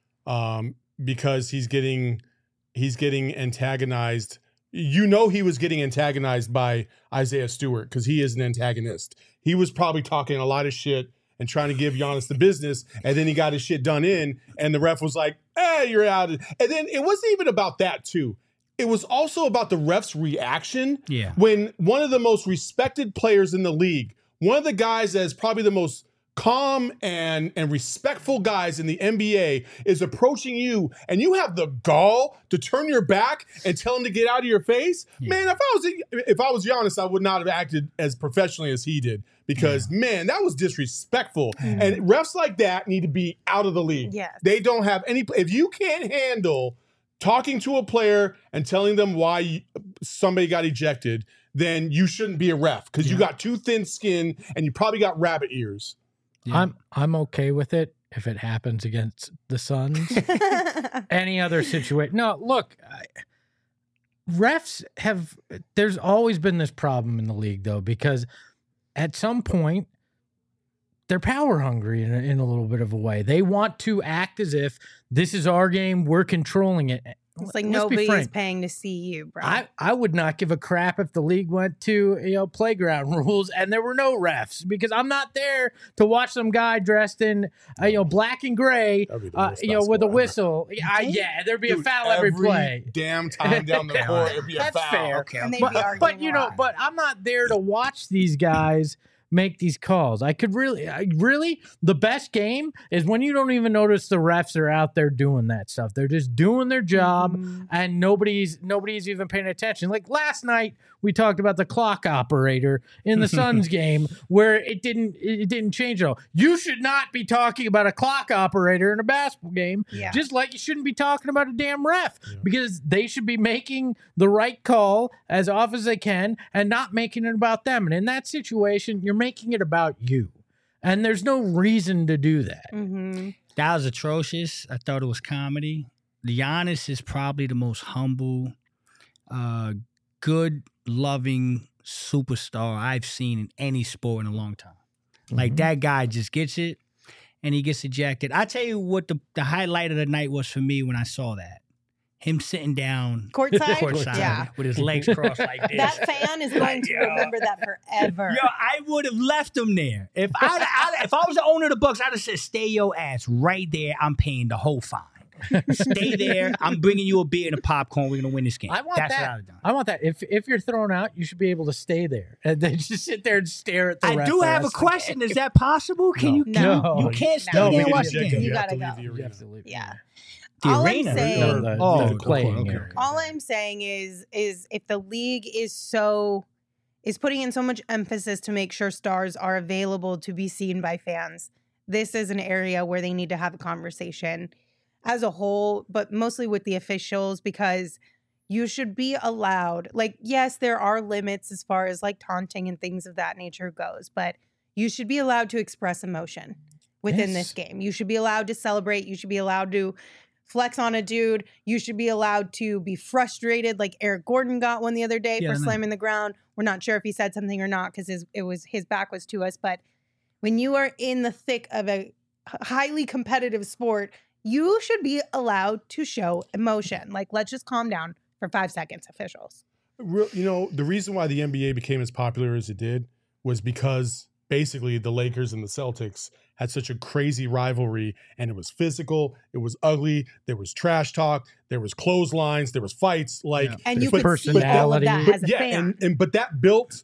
because he's getting antagonized. You know, he was getting antagonized by Isaiah Stewart because he is an antagonist. He was probably talking a lot of shit and trying to give Giannis the business, and then he got his shit done in, and the ref was like, "Hey, you're out." And then it wasn't even about that too. It was also about the ref's reaction. Yeah. When one of the most respected players in the league, one of the guys that is probably the most calm and respectful guys in the NBA is approaching you, and you have the gall to turn your back and tell him to get out of your face. Yeah. Man, if I was Giannis, I would not have acted as professionally as he did because, man, that was disrespectful. Mm. And refs like that need to be out of the league. Yes. They don't have any. If you can't handle talking to a player and telling them why somebody got ejected, then you shouldn't be a ref because you got too thin skin and you probably got rabbit ears. Yeah. I'm okay with it if it happens against the Suns. Any other situation. No, look, refs there's always been this problem in the league, though, because at some point, they're power hungry in a little bit of a way. They want to act as if this is our game, we're controlling it. It's like nobody's paying to see you, bro. I would not give a crap if the league went to playground rules and there were no refs because I'm not there to watch some guy dressed in black and gray, with a whistle. There'd be a foul every play. Damn time down the court, it'd be a That's foul. Fair. Okay. And they'd be arguing but I'm not there to watch these guys make these calls. I could really, the best game is when you don't even notice the refs are out there doing that stuff. They're just doing their job and nobody's even paying attention. Like last night, we talked about the clock operator in the Suns game where it didn't change at all. You should not be talking about a clock operator in a basketball game, just like you shouldn't be talking about a damn ref because they should be making the right call as often as they can and not making it about them. And in that situation, you're making it about you. And there's no reason to do that. Mm-hmm. That was atrocious. I thought it was comedy. Giannis is probably the most humble, good, loving superstar I've seen in any sport in a long time. Like that guy just gets it and he gets ejected. I tell you what the highlight of the night was for me when I saw that. Him sitting down courtside with his legs crossed like this. That fan is going to remember that forever. Yo, I would have left him there. If I was the owner of the Bucks, I'd have said, stay your ass right there. I'm paying the whole fine. Stay there. I'm bringing you a beer and a popcorn. We're going to win this game. I want That's that. what I would have done. I want that. If you're thrown out, you should be able to stay there and then just sit there and stare at the ref. I do have a question. Is that possible? Can you can't stay there and watch the game. You got to go. You have to leave. Yeah. The all arena. I'm saying, the playing area. All I'm saying is if the league is putting in so much emphasis to make sure stars are available to be seen by fans, this is an area where they need to have a conversation as a whole, but mostly with the officials, because you should be allowed, like, yes, there are limits as far as like taunting and things of that nature goes, but you should be allowed to express emotion within Yes. this game. You should be allowed to celebrate. You should be allowed to flex on a dude. You should be allowed to be frustrated, like Eric Gordon got one the other day Yeah, I for know. slamming the ground. We're not sure if he said something or not because his back was to us. But when you are in the thick of a highly competitive sport, you should be allowed to show emotion. Like, let's just calm down for 5 seconds, officials. The reason why the NBA became as popular as it did was because basically the Lakers and the Celtics had such a crazy rivalry, and it was physical, it was ugly, there was trash talk, there was clotheslines, there was fights, like Yeah. And you There's could see all of personality. that but as a yeah, fan. but that built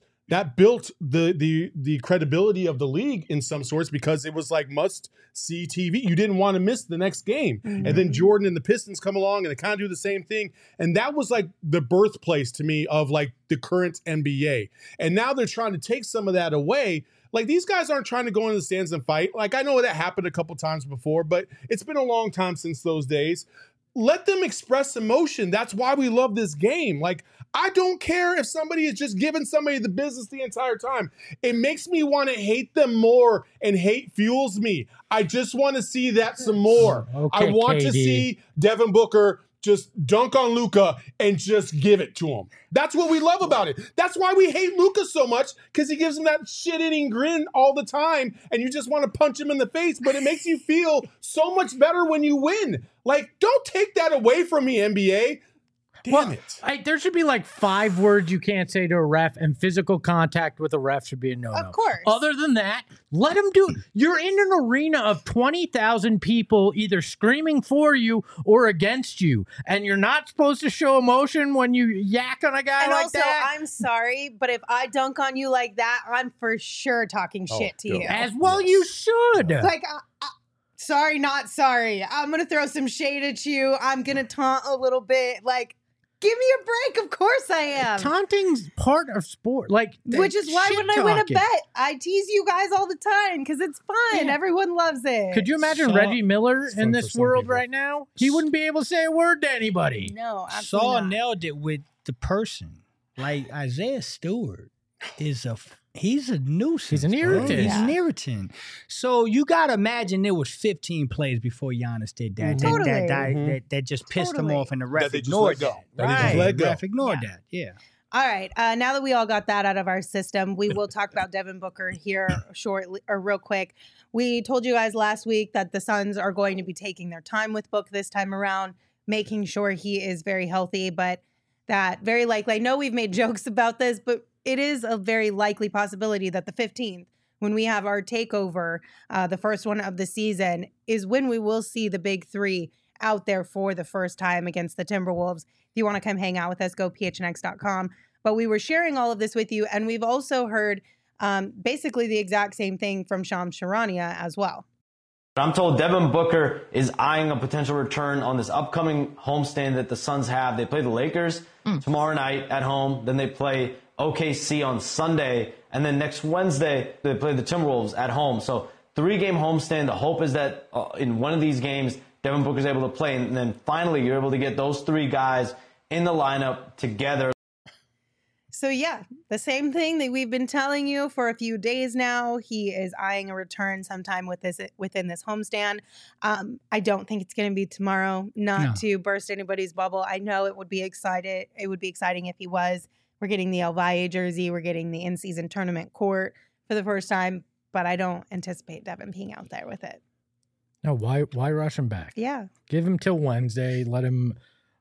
the credibility of the league in some sorts because it was like must see TV. You didn't want to miss the next game. And then Mhm. Jordan and the Pistons come along and they kind of do the same thing. And that was like the birthplace to me of like the current NBA. And now they're trying to take some of that away. Like these guys aren't trying to go into the stands and fight. Like I know that happened a couple times before, but it's been a long time since those days. Let them express emotion. That's why we love this game. Like, I don't care if somebody is just giving somebody the business the entire time. It makes me want to hate them more, and hate fuels me. I just want to see that some more. Okay, I want to KD. see Devin Booker just dunk on Luka and just give it to him. That's what we love about it. That's why we hate Luka so much, because he gives him that shit-eating grin all the time, and you just want to punch him in the face, but it makes you feel so much better when you win. Like, don't take that away from me, NBA. Damn it. There should be like 5 words you can't say to a ref, and physical contact with a ref should be a no-no. Of course. Other than that, let them do it. You're in an arena of 20,000 people either screaming for you or against you, and you're not supposed to show emotion when you yak on a guy And like also, that. I'm sorry, but if I dunk on you like that, I'm for sure talking shit to you. As well, you should. Like, sorry, not sorry. I'm going to throw some shade at you. I'm going to taunt a little bit. Like, give me a break. Of course I am. Taunting's part of sport. Like, Which is why when I win a shit-talking. bet, I tease you guys all the time because it's fun. Yeah. Everyone loves it. Could you imagine Saw- Reggie Miller It's in fun for this some world people. right now? He wouldn't be able to say a word to anybody. No, absolutely Saul not. nailed it with the person. Like Isaiah Stewart he's a nuisance. He's an bro. irritant. He's Yeah. an irritant. So you gotta imagine there was 15 plays before Giannis did that. Totally. That just pissed him Totally. off, and the ref That they just ignored let go. that. That they just Right. let The go. ref ignored Yeah. that. Yeah. All right. Now that we all got that out of our system, we will talk about Devin Booker here shortly or real quick. We told you guys last week that the Suns are going to be taking their time with Book this time around, making sure he is very healthy, but that very likely, I know we've made jokes about this, but it is a very likely possibility that the 15th, when we have our takeover, the first one of the season, is when we will see the big 3 out there for the first time against the Timberwolves. If you want to come hang out with us, go phnx.com. But we were sharing all of this with you, and we've also heard basically the exact same thing from Shams Charania as well. I'm told Devin Booker is eyeing a potential return on this upcoming homestand that the Suns have. They play the Lakers tomorrow night at home. Then they play OKC on Sunday. And then next Wednesday, they play the Timberwolves at home. So 3-game homestand. The hope is that in one of these games, Devin Booker's able to play. And then finally, you're able to get those 3 guys in the lineup together. So yeah, the same thing that we've been telling you for a few days now. He is eyeing a return sometime within this homestand. I don't think it's going to be tomorrow. Not to burst anybody's bubble. I know it would be excited. It would be exciting if he was. We're getting the El Valle jersey. We're getting the in-season tournament court for the first time. But I don't anticipate Devin being out there with it. No, why rush him back? Yeah. Give him till Wednesday. Let him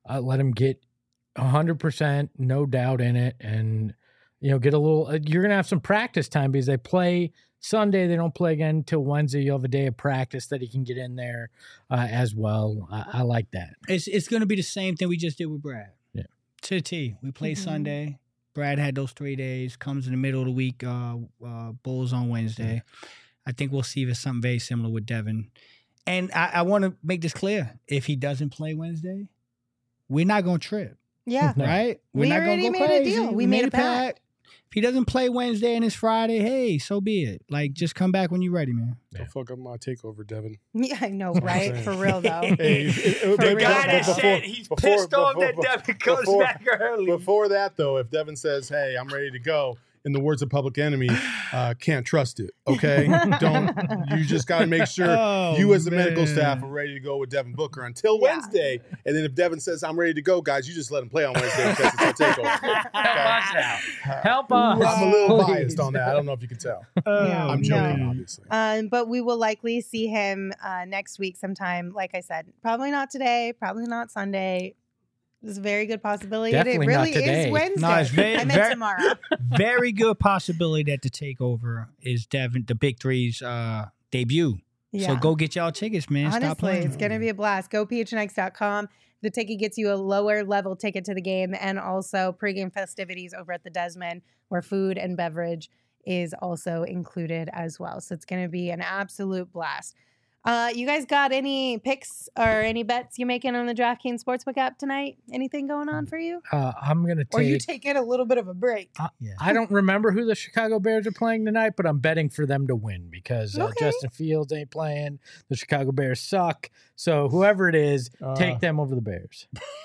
get 100%, no doubt in it, and get a little. You're gonna have some practice time because they play Sunday. They don't play again until Wednesday. You'll have a day of practice that he can get in there as well. I like that. It's going to be the same thing we just did with Brad. Yeah. To the T. We play Mhm. Sunday. Brad had those 3 days. Comes in the middle of the week. Bulls on Wednesday. I think we'll see if it's something very similar with Devin. And I want to make this clear. If he doesn't play Wednesday, we're not going to trip. Yeah. No. Right? We're We not going already to go made a crazy. deal. We made a pact. If he doesn't play Wednesday and it's Friday, hey, so be it. Like, just come back when you're ready, man. Don't fuck up my takeover, Devin. Yeah, I know, right? For real though. Hey, The but guy that before- said he's before- pissed off before- that Devin comes before- back early. Before that, though, if Devin says, "Hey, I'm ready to go," in the words of Public Enemy, can't trust it. Okay, you just got to make sure you as the medical staff are ready to go with Devin Booker until Wednesday, and then if Devin says I'm ready to go, guys, you just let him play on Wednesday because it's a takeover. Help us. I'm a little please. biased on that. I don't know if you can tell. Yeah, I'm joking, obviously. But we will likely see him next week sometime. Like I said, probably not today, probably not Sunday. There's a very good possibility. Definitely it really not today. is Wednesday. No, it's I meant tomorrow. Very good possibility that the takeover is the Big Three's debut. Yeah. So go get y'all tickets, man. Stop Honestly, playing. it's going to be a blast. Go phnx.com. The ticket gets you a lower level ticket to the game and also pregame festivities over at the Desmond where food and beverage is also included as well. So it's going to be an absolute blast. You guys got any picks or any bets you making on the DraftKings Sportsbook app tonight? Anything going on for you? I'm going to take... Or you taking a little bit of a break? I don't remember who the Chicago Bears are playing tonight, but I'm betting for them to win because Justin Fields ain't playing. The Chicago Bears suck. So whoever it is, take them over the Bears.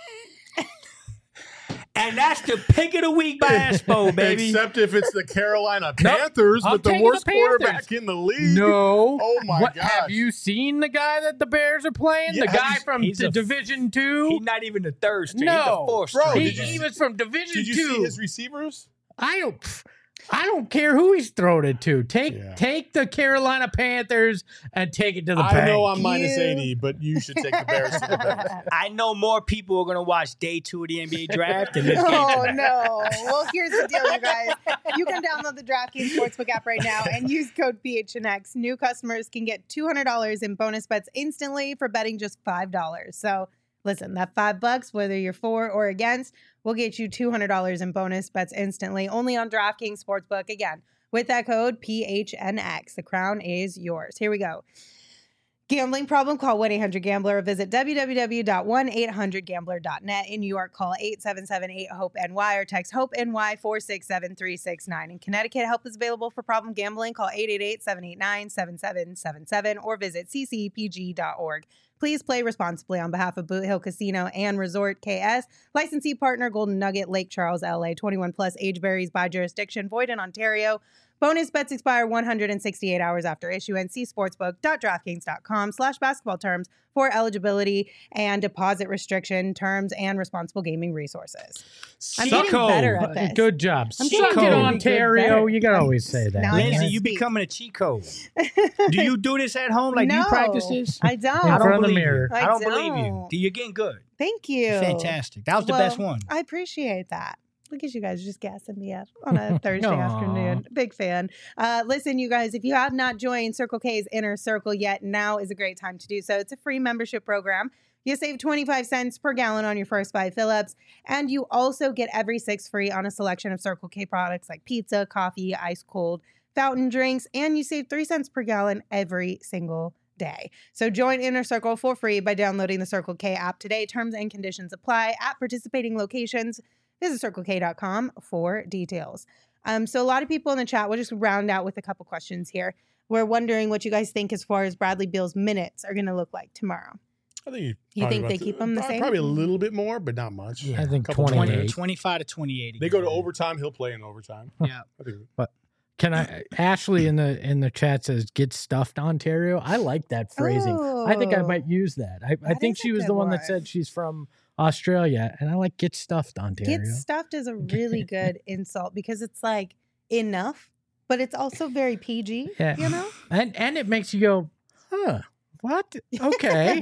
And that's the pick of the week by Espo, baby. Except if it's the Carolina Panthers I'm with the taking worst the Panthers. quarterback in the league. No. Oh my What, gosh. have you seen the guy that the Bears are playing? Yeah, the guy from he's a- Division 2? He's not even the third string. No. He's the fourth Bro, string. He was from Division 2. Did you see his receivers? I don't care who he's thrown it to. Yeah. Take the Carolina Panthers and take it to the I bank. know I'm minus 80, but you should take the Bears to the bank. I know more people are going to watch day 2 of the NBA draft than this game. Oh, no. Well, here's the deal, you guys. You can download the DraftKings Sportsbook app right now and use code PHNX. New customers can get $200 in bonus bets instantly for betting just $5. So listen, that $5, whether you're for or against, will get you $200 in bonus bets instantly only on DraftKings Sportsbook. Again, with that code PHNX. The crown is yours. Here we go. Gambling problem? Call 1-800-GAMBLER or visit www.1800gambler.net. In New York, call 877-8-HOPE-NY or text HOPE-NY 467-369. In Connecticut, help is available for problem gambling. Call 888-789-7777 or visit ccpg.org. Please play responsibly on behalf of Boot Hill Casino and Resort KS. Licensee partner Golden Nugget, Lake Charles, LA. 21 plus, age varies by jurisdiction. Void in Ontario. Bonus bets expire 168 hours after issuance. See sportsbook.draftkings.com/basketball terms for eligibility and deposit restriction terms and responsible gaming resources. I'm getting better at this. Good job. I'm Suck getting it, really Ontario. good You can always say that. Now I Lindsay, can't you speak. becoming a cheat code. Do you do this at home? Like, do No, you practice this? I don't. In I front don't of the believe mirror. you. I I don't believe you. don't. You're getting good. Thank you. Fantastic. That was the Well, best one. I appreciate that. Look at you guys just gassing me up on a Thursday Aw. afternoon. Big fan. Listen, you guys, if you have not joined Circle K's Inner Circle yet, now is a great time to do so. It's a free membership program. You save 25 cents per gallon on your first 5 fill-ups, and you also get every 6 free on a selection of Circle K products like pizza, coffee, ice cold, fountain drinks, and you save 3 cents per gallon every single day. So join Inner Circle for free by downloading the Circle K app today. Terms and conditions apply at participating locations. Visit CircleK.com for details. So a lot of people in the chat, we'll just round out with a couple questions here. We're wondering what you guys think as far as Bradley Beal's minutes are going to look like tomorrow. I think You think they keep him the same? Probably a little bit more, but not much. Yeah. I think Couple 28. 25 to 28. They go to overtime. He'll play in overtime. Yeah. I think Can I? Ashley in the chat says, "Get stuffed, Ontario." I like that phrasing. I think I Oh. might use that. I That think is she a was good the one that one. said she's from Australia, and I like "Get stuffed, Ontario." Get stuffed is a really good insult because it's like enough, but it's also very PG, Yeah. you know? and it makes you go, "Huh? What? Okay."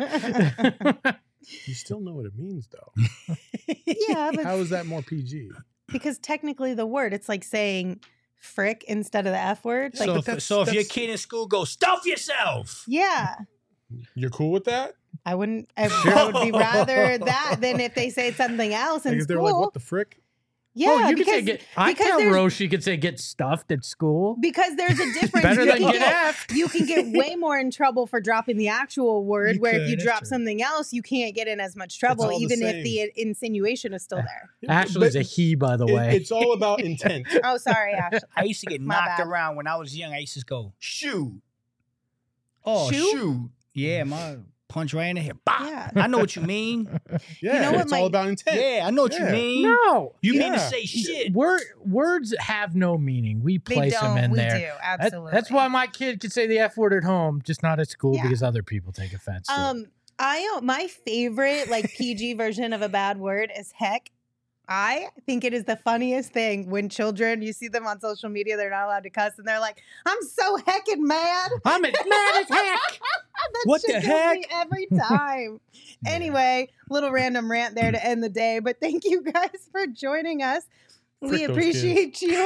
you still know what it means, though. Yeah, but How is that more PG? because technically the word, it's like saying frick instead of the F word. Like, So, but if, that's- so if your that's- kid in school goes, stuff yourself. yeah. You're cool with that? I wouldn't. I would be rather that than if they say something else in Like if they're school. like, what the frick? Yeah, oh, you because, could say get. I because tell there's- Rose she could say "Get stuffed" at school. because there's a difference. Better You than can get F. You can get way more in trouble for dropping the actual word, You where could, if you that's drop true. something else, you can't get in as much trouble, all the even if same. the insinuation is still there. Ashley's But a he, by the way. It's all about intent. Oh, sorry, Ashley. I used to get My knocked bad. around when I was young. I used to go, shoot. Oh, Shoot? shoot. Yeah, my punch right in the head. Bah! Yeah. I know what you mean. Yeah, know what it's all about intent. Yeah, I know what you Yeah. mean. No. You mean to Yeah. say shit. Words have no meaning. We They place them don't. in We there. do. That- Absolutely. that's why my kid can say the F word at home, just not at school Yeah. because other people take offense to it. My favorite like PG version of a bad word is heck. I think it is the funniest thing when children, you see them on social media, they're not allowed to cuss, and they're like, "I'm so heckin' mad." I'm as mad as heck. That What shit the kills heck? me every time. Anyway, little random rant there to end the day, but thank you guys for joining us. Frick We those appreciate you.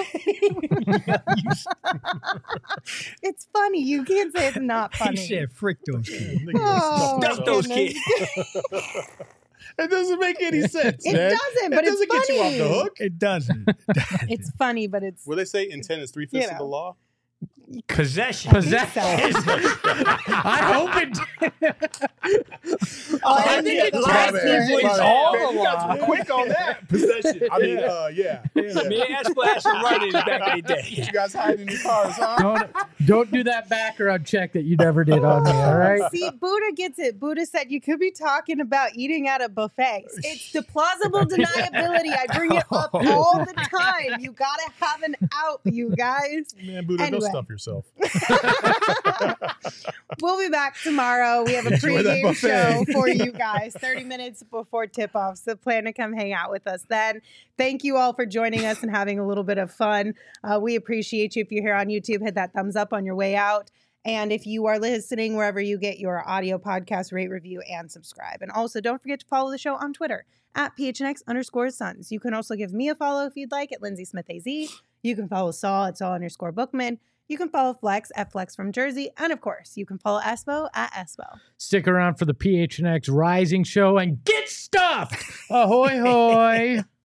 It's funny. You can't say it's not He funny. said, "Frick those kids." Oh, Stuff my those goodness. kids. It doesn't make any sense, It man. doesn't, but it it's doesn't get you off the funny. hook. It doesn't. It's funny, but it's What they say, intent is 3/5 of the law. Possession. Possession. I hope it. I think it's right it's all the law. Quick on that possession. I mean, yeah. Me and Espo had some running back in the day. You guys hiding in your cars, huh? Don't do that background check that you never did on me, all right? See, Buddha gets it. Buddha said you could be talking about eating at a buffet. It's the plausible deniability. I bring it up all the time. You gotta have an out, you guys. Man, Buddha, Anyway. don't stuff yourself. We'll be back tomorrow. We have a Enjoy that pregame buffet. show for you guys, 30 minutes before tip-off. So plan to come hang out with us then. Thank you all for joining us and having a little bit of fun. We appreciate you. If you're here on YouTube, hit that thumbs up on your way out. And if you are listening wherever you get your audio podcast, rate, review, and subscribe. And also don't forget to follow the show on Twitter at PHNX_Suns. You can also give me a follow if you'd like at Lindsay Smith AZ. You can follow Saul at Saul_Bookman. You can follow Flex at Flex from Jersey. And of course, you can follow Espo at Espo. Stick around for the PHNX Rising Show and get stuffed. Ahoy, hoy.